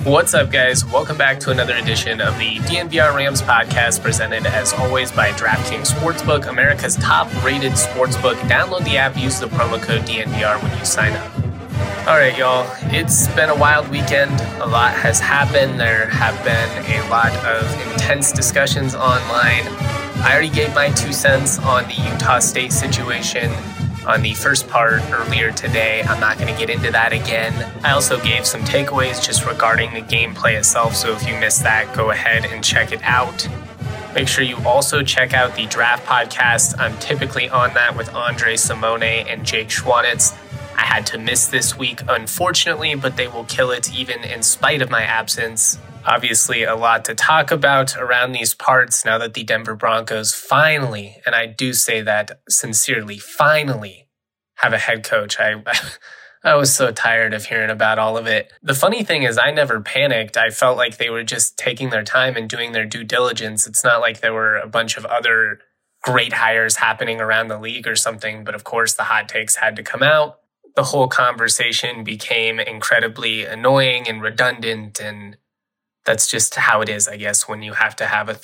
What's up, guys? Welcome back to another edition of the DNVR Rams podcast, presented as always by DraftKings Sportsbook, America's top-rated sportsbook. Download the app, use the promo code DNVR when you sign up. All right, y'all. It's been a wild weekend. A lot has happened. There have been a lot of intense discussions online. I already gave my 2 cents on the Utah State situation on the first part earlier today. I'm not going to get into that again. I also gave some takeaways just regarding the gameplay itself, so if you missed that, go ahead and check it out. Make sure you also check out the Draft Podcast. I'm typically on that with Andre Simone and Jake Schwanitz. I had to miss this week, unfortunately, but they will kill it even in spite of my absence. Obviously, a lot to talk about around these parts now that the Denver Broncos finally, and I do say that sincerely, finally have a head coach. I was so tired of hearing about all of it. The funny thing is I never panicked. I felt like they were just taking their time and doing their due diligence. It's not like there were a bunch of other great hires happening around the league or something, but of course the hot takes had to come out. The whole conversation became incredibly annoying and redundant, and that's just how it is, I guess, when you have to have a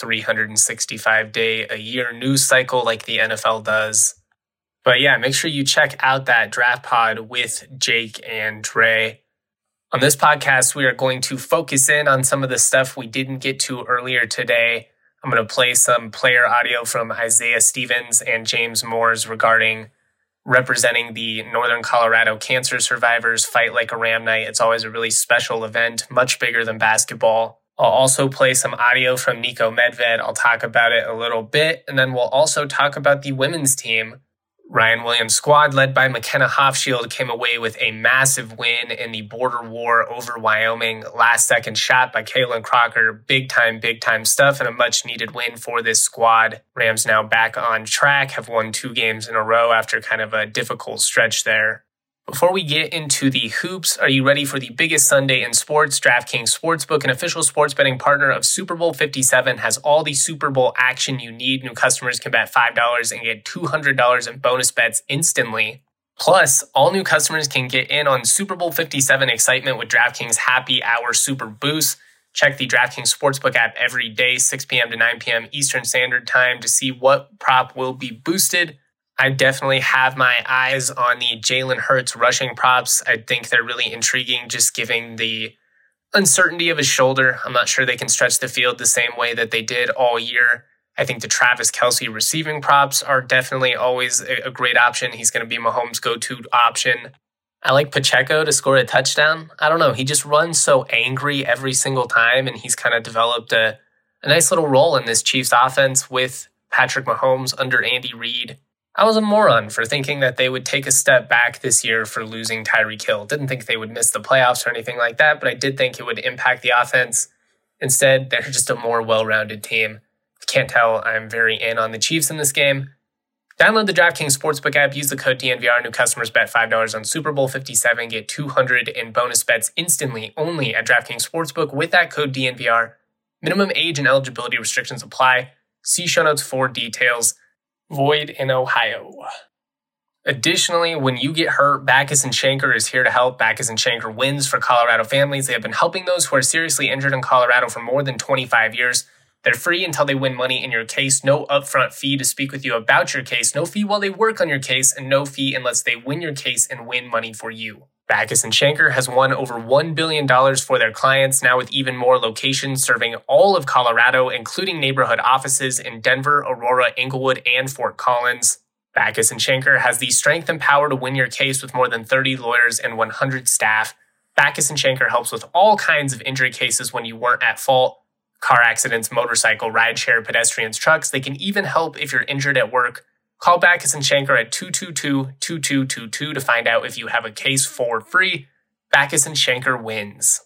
365-day-a-year news cycle like the NFL does. But yeah, make sure you check out that draft pod with Jake and Dre. On this podcast, we are going to focus in on some of the stuff we didn't get to earlier today. I'm going to play some player audio from Isaiah Stevens and James Moores regarding representing the Northern Colorado cancer survivors Fight Like a Ram Night. It's always a really special event, much bigger than basketball. I'll also play some audio from Nico Medved. I'll talk about it a little bit, and then we'll also talk about the women's team. Ryan Williams' squad, led by McKenna Hofschild, came away with a massive win in the border war over Wyoming. Last-second shot by Kaylin Crocker. Big time stuff, and a much-needed win for this squad. Rams now back on track, have won 2 games in a row after kind of a difficult stretch there. Before we get into the hoops, are you ready for the biggest Sunday in sports? DraftKings Sportsbook, an official sports betting partner of Super Bowl 57, has all the Super Bowl action you need. New customers can bet $5 and get $200 in bonus bets instantly. Plus, all new customers can get in on Super Bowl 57 excitement with DraftKings Happy Hour Super Boost. Check the DraftKings Sportsbook app every day, 6 p.m. to 9 p.m. Eastern Standard Time, to see what prop will be boosted. I definitely have my eyes on the Jalen Hurts rushing props. I think they're really intriguing, just given the uncertainty of his shoulder. I'm not sure they can stretch the field the same way that they did all year. I think the Travis Kelce receiving props are definitely always a great option. He's going to be Mahomes' go-to option. I like Pacheco to score a touchdown. I don't know. He just runs so angry every single time, and he's kind of developed a nice little role in this Chiefs offense with Patrick Mahomes under Andy Reid. I was a moron for thinking that they would take a step back this year for losing Tyreek Hill. Didn't think they would miss the playoffs or anything like that, but I did think it would impact the offense. Instead, they're just a more well-rounded team. If you can't tell, I'm very in on the Chiefs in this game. Download the DraftKings Sportsbook app. Use the code DNVR. New customers bet $5 on Super Bowl 57. Get $200 in bonus bets instantly only at DraftKings Sportsbook with that code DNVR. Minimum age and eligibility restrictions apply. See show notes for details. Void in Ohio. Additionally, when you get hurt, Backus and Shanker is here to help. Backus and Shanker wins for Colorado families. They have been helping those who are seriously injured in Colorado for more than 25 years. They're free until they win money in your case. No upfront fee to speak with you about your case. No fee while they work on your case, and no fee unless they win your case and win money for you. Backus and Shanker has won over $1 billion for their clients, now with even more locations serving all of Colorado, including neighborhood offices in Denver, Aurora, Inglewood, and Fort Collins. Backus and Shanker has the strength and power to win your case with more than 30 lawyers and 100 staff. Backus and Shanker helps with all kinds of injury cases when you weren't at fault. Car accidents, motorcycle, rideshare, pedestrians, trucks. They can even help if you're injured at work. Call Backus and Shanker at 222-2222 to find out if you have a case for free. Backus and Shanker wins.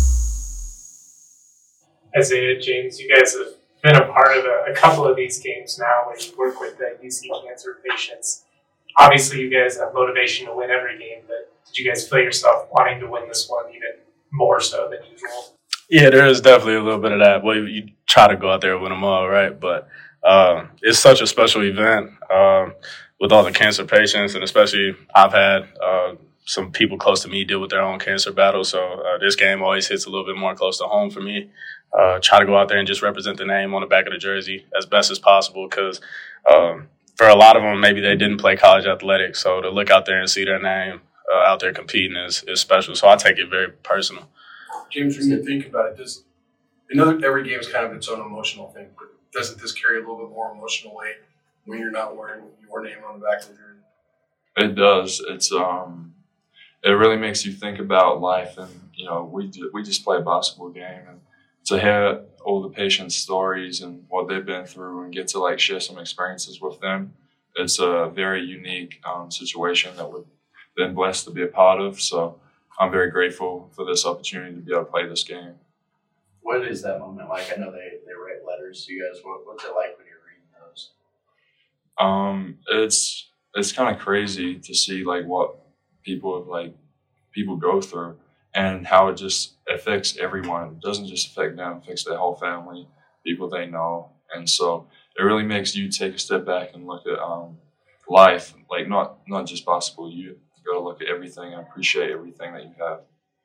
Isaiah, James, you guys have been a part of a couple of these games now where you work with the UC cancer patients. Obviously, you guys have motivation to win every game, but did you guys feel yourself wanting to win this one even more so than usual? Yeah, there is definitely a little bit of that. Well, you try to go out there and win them all, right? But it's such a special event. with all the cancer patients, and especially I've had some people close to me deal with their own cancer battle. So this game always hits a little bit more close to home for me. Try to go out there and just represent the name on the back of the jersey as best as possible because for a lot of them, maybe they didn't play college athletics. So to look out there and see their name out there competing is special. So I take it very personal. James, when you think about it, every game is kind of its own emotional thing, but doesn't this carry a little bit more emotional weight when you're not wearing your name on the back of the jersey? It does. It's it really makes you think about life, and we just play a basketball game, and to hear all the patients' stories and what they've been through, and get to share some experiences with them, it's a very unique situation that we've been blessed to be a part of. So I'm very grateful for this opportunity to be able to play this game. What is that moment like? I know they write letters to you guys. What's it like when you're reading those? It's kind of crazy to see what people go through and how it just affects everyone. It doesn't just affect them; it affects their whole family, people they know, and so it really makes you take a step back and look at life, not just basketball. You got to look at everything and appreciate everything that you have.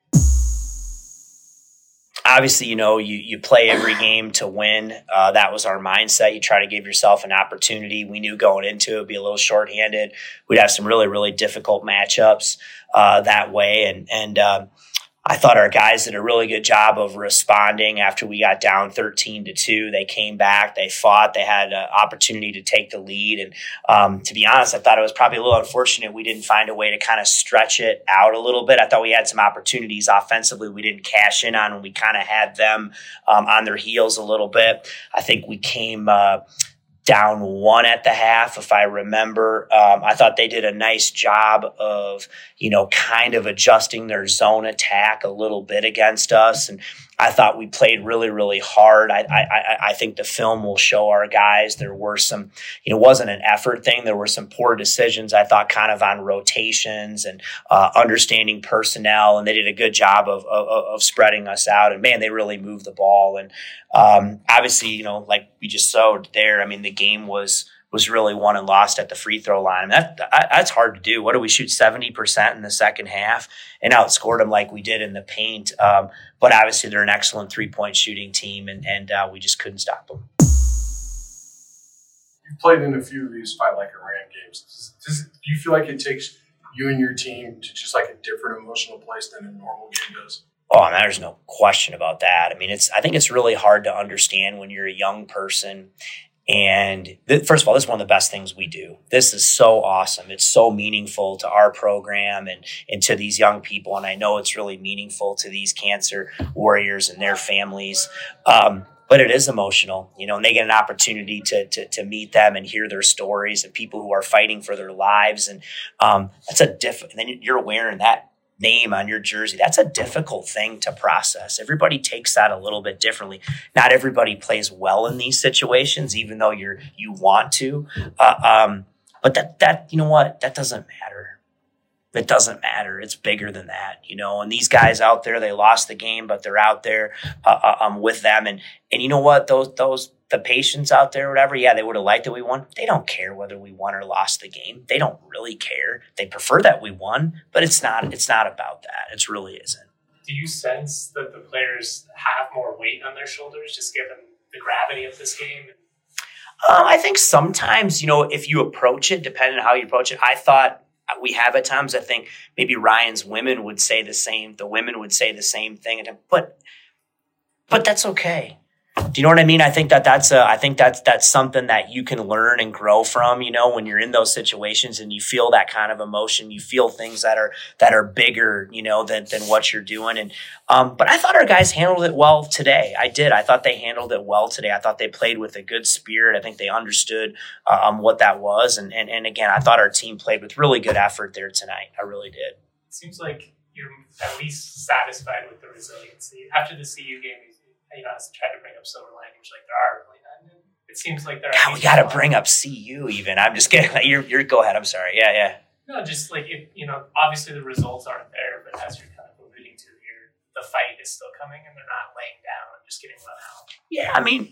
Obviously, you play every game to win. That was our mindset. You try to give yourself an opportunity. We knew going into it would be a little shorthanded. We'd have some really, really difficult matchups that way. And I thought our guys did a really good job of responding after we got down 13-2. They came back, they fought, they had an opportunity to take the lead. And to be honest, I thought it was probably a little unfortunate we didn't find a way to kind of stretch it out a little bit. I thought we had some opportunities offensively we didn't cash in on, and we kind of had them on their heels a little bit. I think we came down 1 at the half, if I remember. I thought they did a nice job of, kind of adjusting their zone attack a little bit against us. And I thought we played really, really hard. I think the film will show our guys there were some, it wasn't an effort thing. There were some poor decisions, I thought, kind of on rotations and understanding personnel. And they did a good job of spreading us out. And, man, they really moved the ball. And obviously, like we just showed there, I mean, the game was really won and lost at the free throw line. I mean, that's hard to do. What do we shoot 70% in the second half and outscored them like we did in the paint? But obviously they're an excellent 3-point shooting team, and we just couldn't stop them. You've played in a few of these Fight Like a Ram games. Do you feel like it takes you and your team to just a different emotional place than a normal game does? Oh, there's no question about that. I mean, I think it's really hard to understand when you're a young person. And first of all, this is one of the best things we do. This is so awesome. It's so meaningful to our program and to these young people. And I know it's really meaningful to these cancer warriors and their families. But it is emotional, and they get an opportunity to meet them and hear their stories and people who are fighting for their lives. And that's and then you're wearing that name on your jersey. That's a difficult thing to process. Everybody takes that a little bit differently. Not everybody plays well in these situations, even though you want to. But that you know what? That doesn't matter. It doesn't matter. It's bigger than that, And these guys out there, they lost the game, but they're out there with them. And you know what? The patients out there, whatever, yeah, they would have liked that we won. They don't care whether we won or lost the game. They don't really care. They prefer that we won, but it's not about that. It really isn't. Do you sense that the players have more weight on their shoulders, just given the gravity of this game? I think sometimes, if you approach it, depending on how you approach it, I thought we have at times. I think maybe Ryan's women would say the same. The women would say the same thing, but that's okay. Do you know what I mean? I think that's something that you can learn and grow from, when you're in those situations and you feel that kind of emotion, you feel things that are bigger, than what you're doing. And, but I thought our guys handled it well today. I did. I thought they handled it well today. I thought they played with a good spirit. I think they understood, what that was. And again, I thought our team played with really good effort there tonight. I really did. It seems like you're at least satisfied with the resiliency after the CU game. I tried to bring up silver linings, there are really none. It seems like there are. God, we got to bring up CU even. I'm just kidding. You're go ahead. I'm sorry. Yeah. No, just obviously the results aren't there, but as you're kind of alluding to here, the fight is still coming and they're not laying down and just getting run out. Yeah, I mean,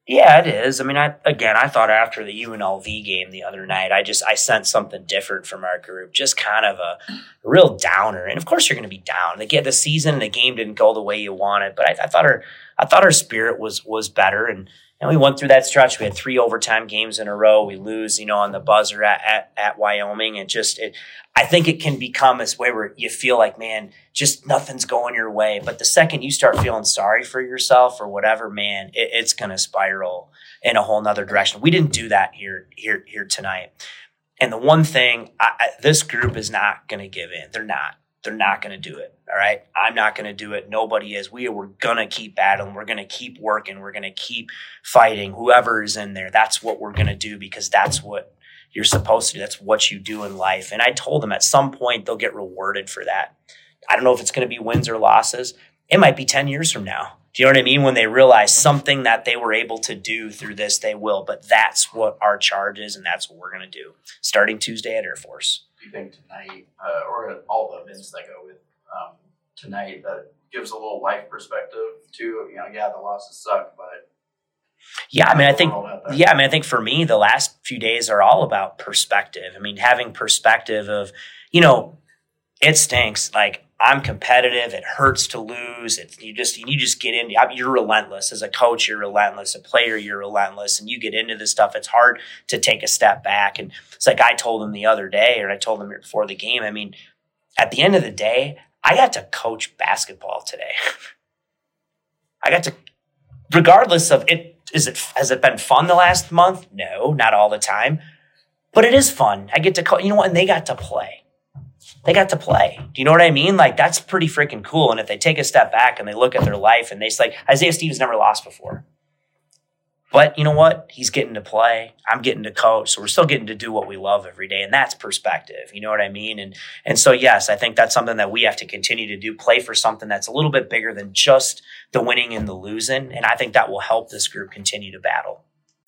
Yeah, it is. I mean, I thought after the UNLV game the other night, I sensed something different from our group, just kind of a real downer. And of course, you're going to be down. The season and the game didn't go the way you wanted, but I thought our spirit was better, and we went through that stretch. We had 3 overtime games in a row. We lose, on the buzzer at Wyoming, and I think it can become this way where you feel like, man, just nothing's going your way. But the second you start feeling sorry for yourself or whatever, man, it's going to spiral in a whole nother direction. We didn't do that here tonight. And the one thing, this group is not going to give in. They're not going to do it. All right. I'm not going to do it. Nobody is. We're going to keep battling. We're going to keep working. We're going to keep fighting. Whoever is in there, that's what we're going to do, because that's what you're supposed to do. That's what you do in life. And I told them at some point they'll get rewarded for that. I don't know if it's going to be wins or losses. It might be 10 years from now. Do you know what I mean? When they realize something that they were able to do through this, they will. But that's what our charge is, and that's what we're going to do starting Tuesday at Air Force. Do you think tonight, or all the events that go with tonight, that gives a little life perspective to, the losses suck, but I think for me, the last few days are all about perspective. I mean, having perspective of, it stinks. Like, I'm competitive. It hurts to lose. You just get into, you're relentless. As a coach, you're relentless. A player, you're relentless. And you get into this stuff. It's hard to take a step back. And it's like I told them the other day, or I told them before the game. I mean, at the end of the day, I got to coach basketball today. I got to, regardless of it, has it been fun the last month? No, not all the time. But it is fun. I get to coach, and they got to play. They got to play. Do you know what I mean? Like, that's pretty freaking cool. And if they take a step back and they look at their life and Isaiah Stevens never lost before. But you know what? He's getting to play. I'm getting to coach. So we're still getting to do what we love every day. And that's perspective. You know what I mean? And so, yes, I think that's something that we have to continue to do, play for something that's a little bit bigger than just the winning and the losing. And I think that will help this group continue to battle.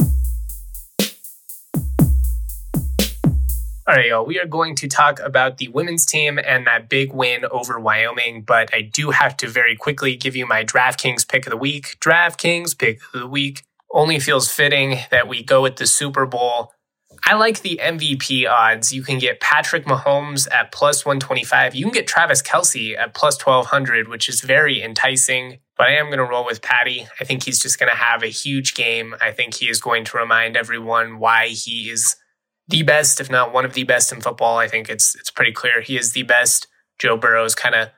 All right, y'all, we are going to talk about the women's team and that big win over Wyoming, but I do have to very quickly give you my DraftKings pick of the week. DraftKings pick of the week. Only feels fitting that we go with the Super Bowl. I like the MVP odds. You can get Patrick Mahomes at plus 125. You can get Travis Kelce at plus 1200, which is very enticing. But I am going to roll with Patty. I think he's just going to have a huge game. I think he is going to remind everyone why he is the best, if not one of the best in football. I think it's pretty clear he is the best. Joe Burrow's kind of,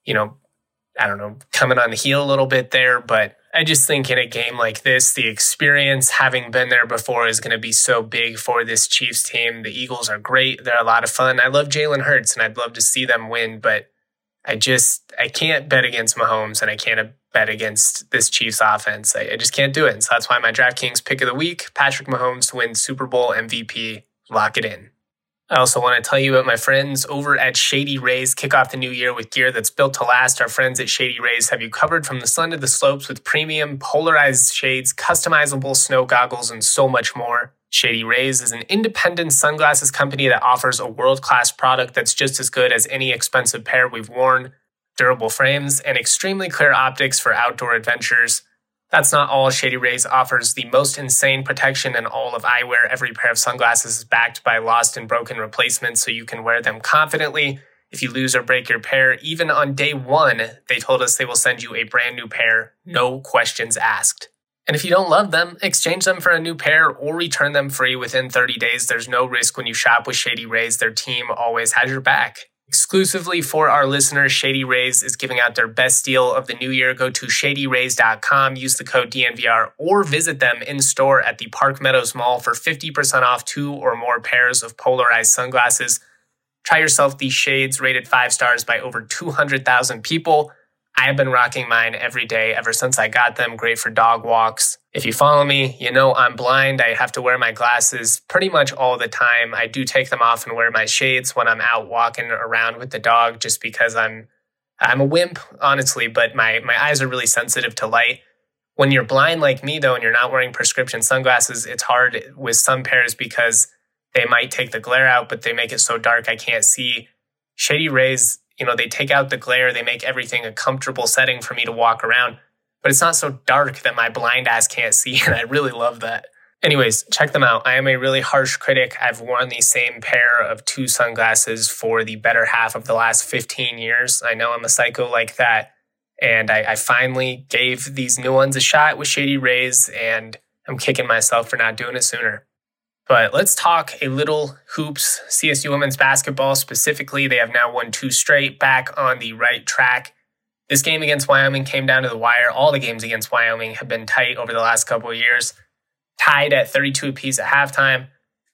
coming on the heel a little bit there, but I just think in a game like this, the experience, having been there before, is going to be so big for this Chiefs team. The Eagles are great. They're a lot of fun. I love Jalen Hurts, and I'd love to see them win, but I can't bet against Mahomes, and I can't bet against this Chiefs offense. I just can't do it. And so that's why my DraftKings pick of the week, Patrick Mahomes to win Super Bowl MVP. Lock it in. I also want to tell you about my friends over at Shady Rays. Kick off the new year with gear that's built to last. Our friends at Shady Rays have you covered from the sun to the slopes with premium polarized shades, customizable snow goggles, and so much more. Shady Rays is an independent sunglasses company that offers a world-class product that's just as good as any expensive pair we've worn. Durable frames and extremely clear optics for outdoor adventures. That's not all. Shady Rays offers the most insane protection in all of eyewear. Every pair of sunglasses is backed by lost and broken replacements, so you can wear them confidently. If you lose or break your pair, even on day one, they told us they will send you a brand new pair, no questions asked. And if you don't love them, exchange them for a new pair or return them free within 30 days. There's no risk when you shop with Shady Rays. Their team always has your back. Exclusively for our listeners, Shady Rays is giving out their best deal of the new year. Go to shadyrays.com, use the code DNVR, or visit them in store at the Park Meadows Mall for 50% off 2 or more pairs of polarized sunglasses. Try yourself these shades rated 5 stars by over 200,000 people. I have been rocking mine every day ever since I got them. Great for dog walks. If you follow me, you know I'm blind. I have to wear my glasses pretty much all the time. I do take them off and wear my shades when I'm out walking around with the dog just because I'm a wimp, honestly, but my eyes are really sensitive to light. When you're blind like me, though, and you're not wearing prescription sunglasses, it's hard with some pairs because they might take the glare out, but they make it so dark I can't see. Shady Rays, they take out the glare. They make everything a comfortable setting for me to walk around. but it's not so dark that my blind ass can't see, and I really love that. Anyways, check them out. I am a really harsh critic. I've worn the same pair of 2 sunglasses for the better half of the last 15 years. I know I'm a psycho like that, and I finally gave these new ones a shot with Shady Rays, and I'm kicking myself for not doing it sooner. But let's talk a little hoops. CSU women's basketball specifically, they have now won 2 straight, back on the right track. This game against Wyoming came down to the wire. All the games against Wyoming have been tight over the last couple of years. Tied at 32 apiece at halftime.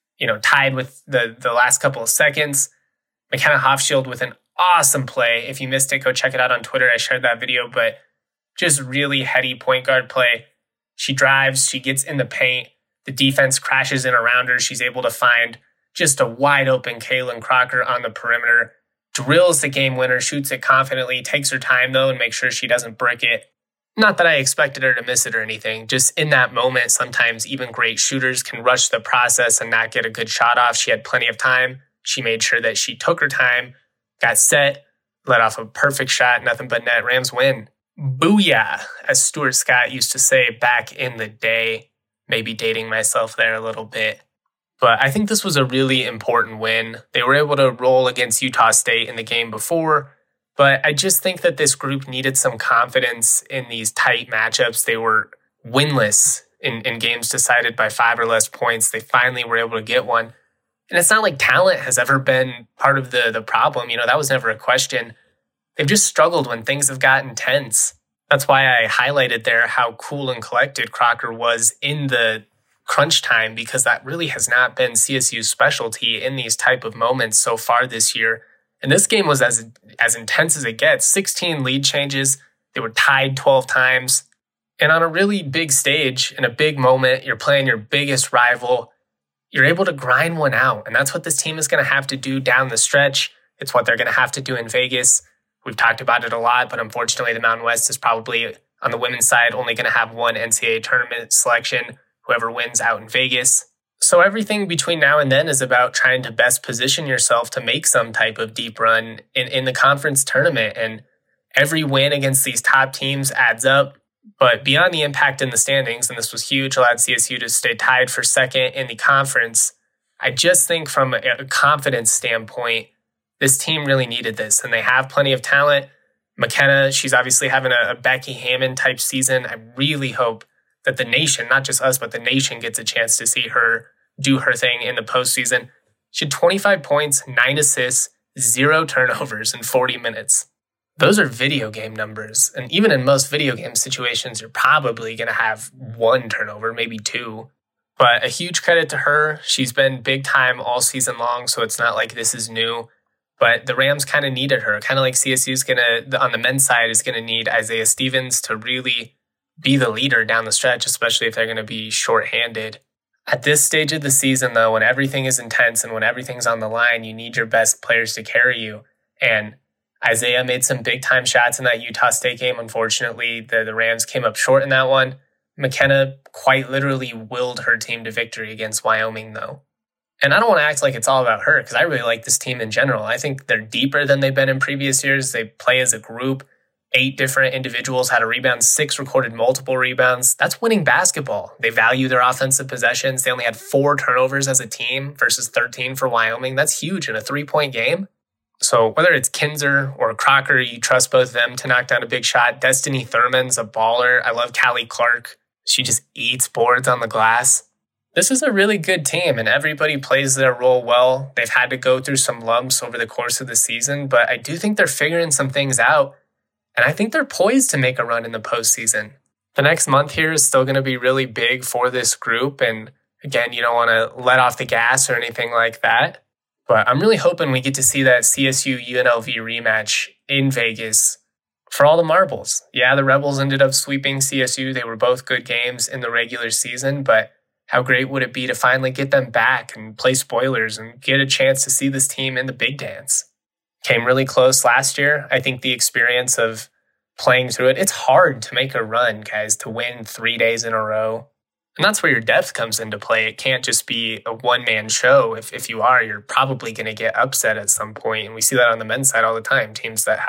Tied with the last couple of seconds. McKenna Hofschild with an awesome play. If you missed it, go check it out on Twitter. I shared that video, but just really heady point guard play. She drives, she gets in the paint. The defense crashes in around her. She's able to find just a wide open Kaylin Crocker on the perimeter. Drills the game winner, shoots it confidently, takes her time though and makes sure she doesn't brick it. Not that I expected her to miss it or anything. Just in that moment, sometimes even great shooters can rush the process and not get a good shot off. She had plenty of time. She made sure that she took her time, got set, let off a perfect shot, nothing but net. Rams win. Booyah, as Stuart Scott used to say back in the day. Maybe dating myself there a little bit. But I think this was a really important win. They were able to roll against Utah State in the game before, but I just think that this group needed some confidence in these tight matchups. They were winless in games decided by 5 or less points. They finally were able to get one. And it's not like talent has ever been part of the problem. That was never a question. They've just struggled when things have gotten tense. That's why I highlighted there how cool and collected Crocker was in the crunch time, because that really has not been CSU's specialty in these type of moments so far this year. And this game was as intense as it gets. 16 lead changes. They were tied 12 times. And on a really big stage, in a big moment, you're playing your biggest rival. You're able to grind one out. And that's what this team is going to have to do down the stretch. It's what they're going to have to do in Vegas. We've talked about it a lot, but unfortunately the Mountain West is probably, on the women's side, only going to have one NCAA tournament selection, whoever wins out in Vegas. So everything between now and then is about trying to best position yourself to make some type of deep run in the conference tournament. And every win against these top teams adds up. But beyond the impact in the standings, and this was huge, allowed CSU to stay tied for second in the conference, I just think from a confidence standpoint, this team really needed this, and they have plenty of talent. McKenna, she's obviously having a Becky Hammon type season. I really hope that the nation, not just us, but the nation gets a chance to see her do her thing in the postseason. She had 25 points, 9 assists, 0 turnovers in 40 minutes. Those are video game numbers. And even in most video game situations, you're probably going to have 1 turnover, maybe 2. But a huge credit to her. She's been big time all season long, so it's not like this is new. But the Rams kind of needed her, kind of like CSU's on the men's side, is going to need Isaiah Stevens to really be the leader down the stretch, especially if they're going to be shorthanded. At this stage of the season, though, when everything is intense and when everything's on the line, you need your best players to carry you. And Isaiah made some big-time shots in that Utah State game. Unfortunately, the Rams came up short in that one. McKenna quite literally willed her team to victory against Wyoming, though. And I don't want to act like it's all about her, because I really like this team in general. I think they're deeper than they've been in previous years. They play as a group. 8 different individuals had a rebound. 6 recorded multiple rebounds. That's winning basketball. They value their offensive possessions. They only had 4 turnovers as a team versus 13 for Wyoming. That's huge in a 3-point game. So whether it's Kinzer or Crocker, you trust both of them to knock down a big shot. Destiny Thurman's a baller. I love Callie Clark. She just eats boards on the glass. This is a really good team, and everybody plays their role well. They've had to go through some lumps over the course of the season, but I do think they're figuring some things out, and I think they're poised to make a run in the postseason. The next month here is still going to be really big for this group, and again, you don't want to let off the gas or anything like that, but I'm really hoping we get to see that CSU-UNLV rematch in Vegas for all the marbles. Yeah, the Rebels ended up sweeping CSU. They were both good games in the regular season, but how great would it be to finally get them back and play spoilers and get a chance to see this team in the big dance? Came really close last year. I think the experience of playing through it, it's hard to make a run, guys, to win 3 days in a row. And that's where your depth comes into play. It can't just be a one-man show. If you are, you're probably going to get upset at some point. And we see that on the men's side all the time. Teams that have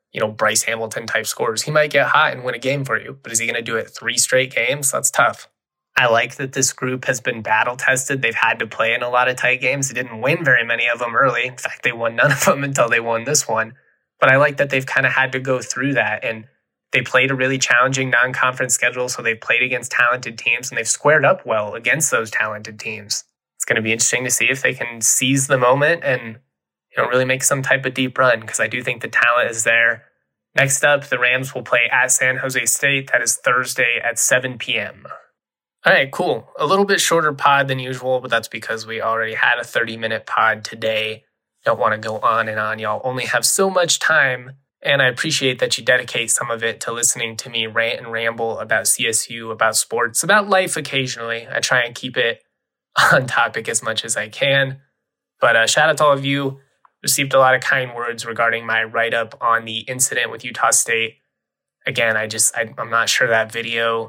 Bryce Hamilton type scores. He might get hot and win a game for you, but is he going to do it 3 straight games? That's tough. I like that this group has been battle tested. They've had to play in a lot of tight games. They didn't win very many of them early. In fact, they won none of them until they won this one. But I like that they've kind of had to go through that. And they played a really challenging non-conference schedule, so they've played against talented teams, and they've squared up well against those talented teams. It's going to be interesting to see if they can seize the moment and really make some type of deep run, because I do think the talent is there. Next up, the Rams will play at San Jose State. That is Thursday at 7 p.m. All right, cool. A little bit shorter pod than usual, but that's because we already had a 30-minute pod today. Don't want to go on and on. Y'all only have so much time, and I appreciate that you dedicate some of it to listening to me rant and ramble about CSU, about sports, about life occasionally. I try and keep it on topic as much as I can. But shout out to all of you. Received a lot of kind words regarding my write-up on the incident with Utah State. Again, I'm not sure that video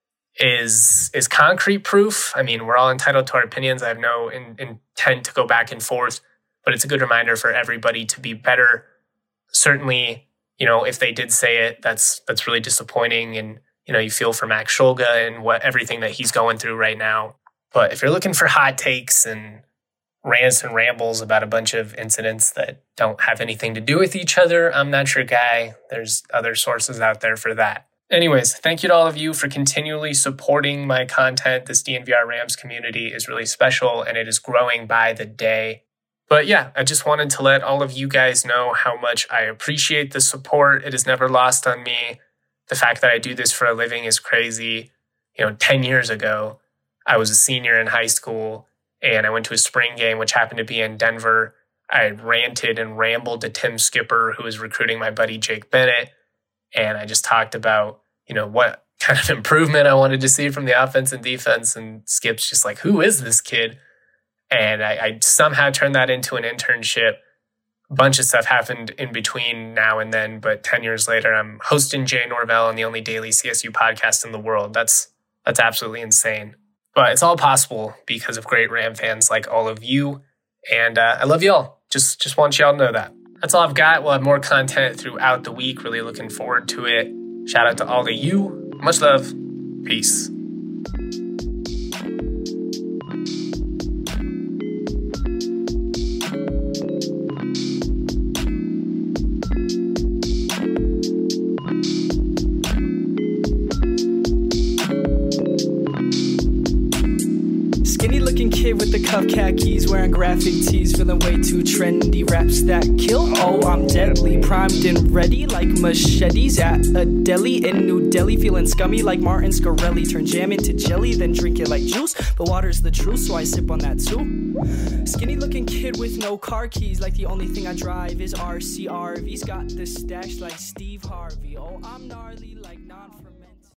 is concrete proof. I mean, we're all entitled to our opinions. I have no intent to go back and forth, but it's a good reminder for everybody to be better. Certainly, if they did say it, that's really disappointing. And, you feel for Max Shulga and everything that he's going through right now. But if you're looking for hot takes and rants and rambles about a bunch of incidents that don't have anything to do with each other, I'm not your guy. There's other sources out there for that. Anyways, thank you to all of you for continually supporting my content. This DNVR Rams community is really special, and it is growing by the day. But yeah, I just wanted to let all of you guys know how much I appreciate the support. It is never lost on me. The fact that I do this for a living is crazy. 10 years ago, I was a senior in high school, and I went to a spring game, which happened to be in Denver. I ranted and rambled to Tim Skipper, who was recruiting my buddy Jake Bennett. And I just talked about, what kind of improvement I wanted to see from the offense and defense. And Skip's just like, who is this kid? And I somehow turned that into an internship. A bunch of stuff happened in between now and then. But 10 years later, I'm hosting Jay Norvell on the only daily CSU podcast in the world. That's absolutely insane. But it's all possible because of great Ram fans like all of you. And I love y'all. Just want y'all to know that. That's all I've got. We'll have more content throughout the week. Really looking forward to it. Shout out to all of you. Much love. Peace. Kid with the cuff khakis, wearing graphic tees, feeling way too trendy. Raps that kill, oh I'm deadly. Primed and ready like machetes at a deli in New Delhi. Feeling scummy like Martin Scarelli. Turn jam into jelly, then drink it like juice. But water's the truth, so I sip on that too. Skinny looking kid with no car keys, like the only thing I drive is RCRV's. Got the stash like Steve Harvey. Oh I'm gnarly like non from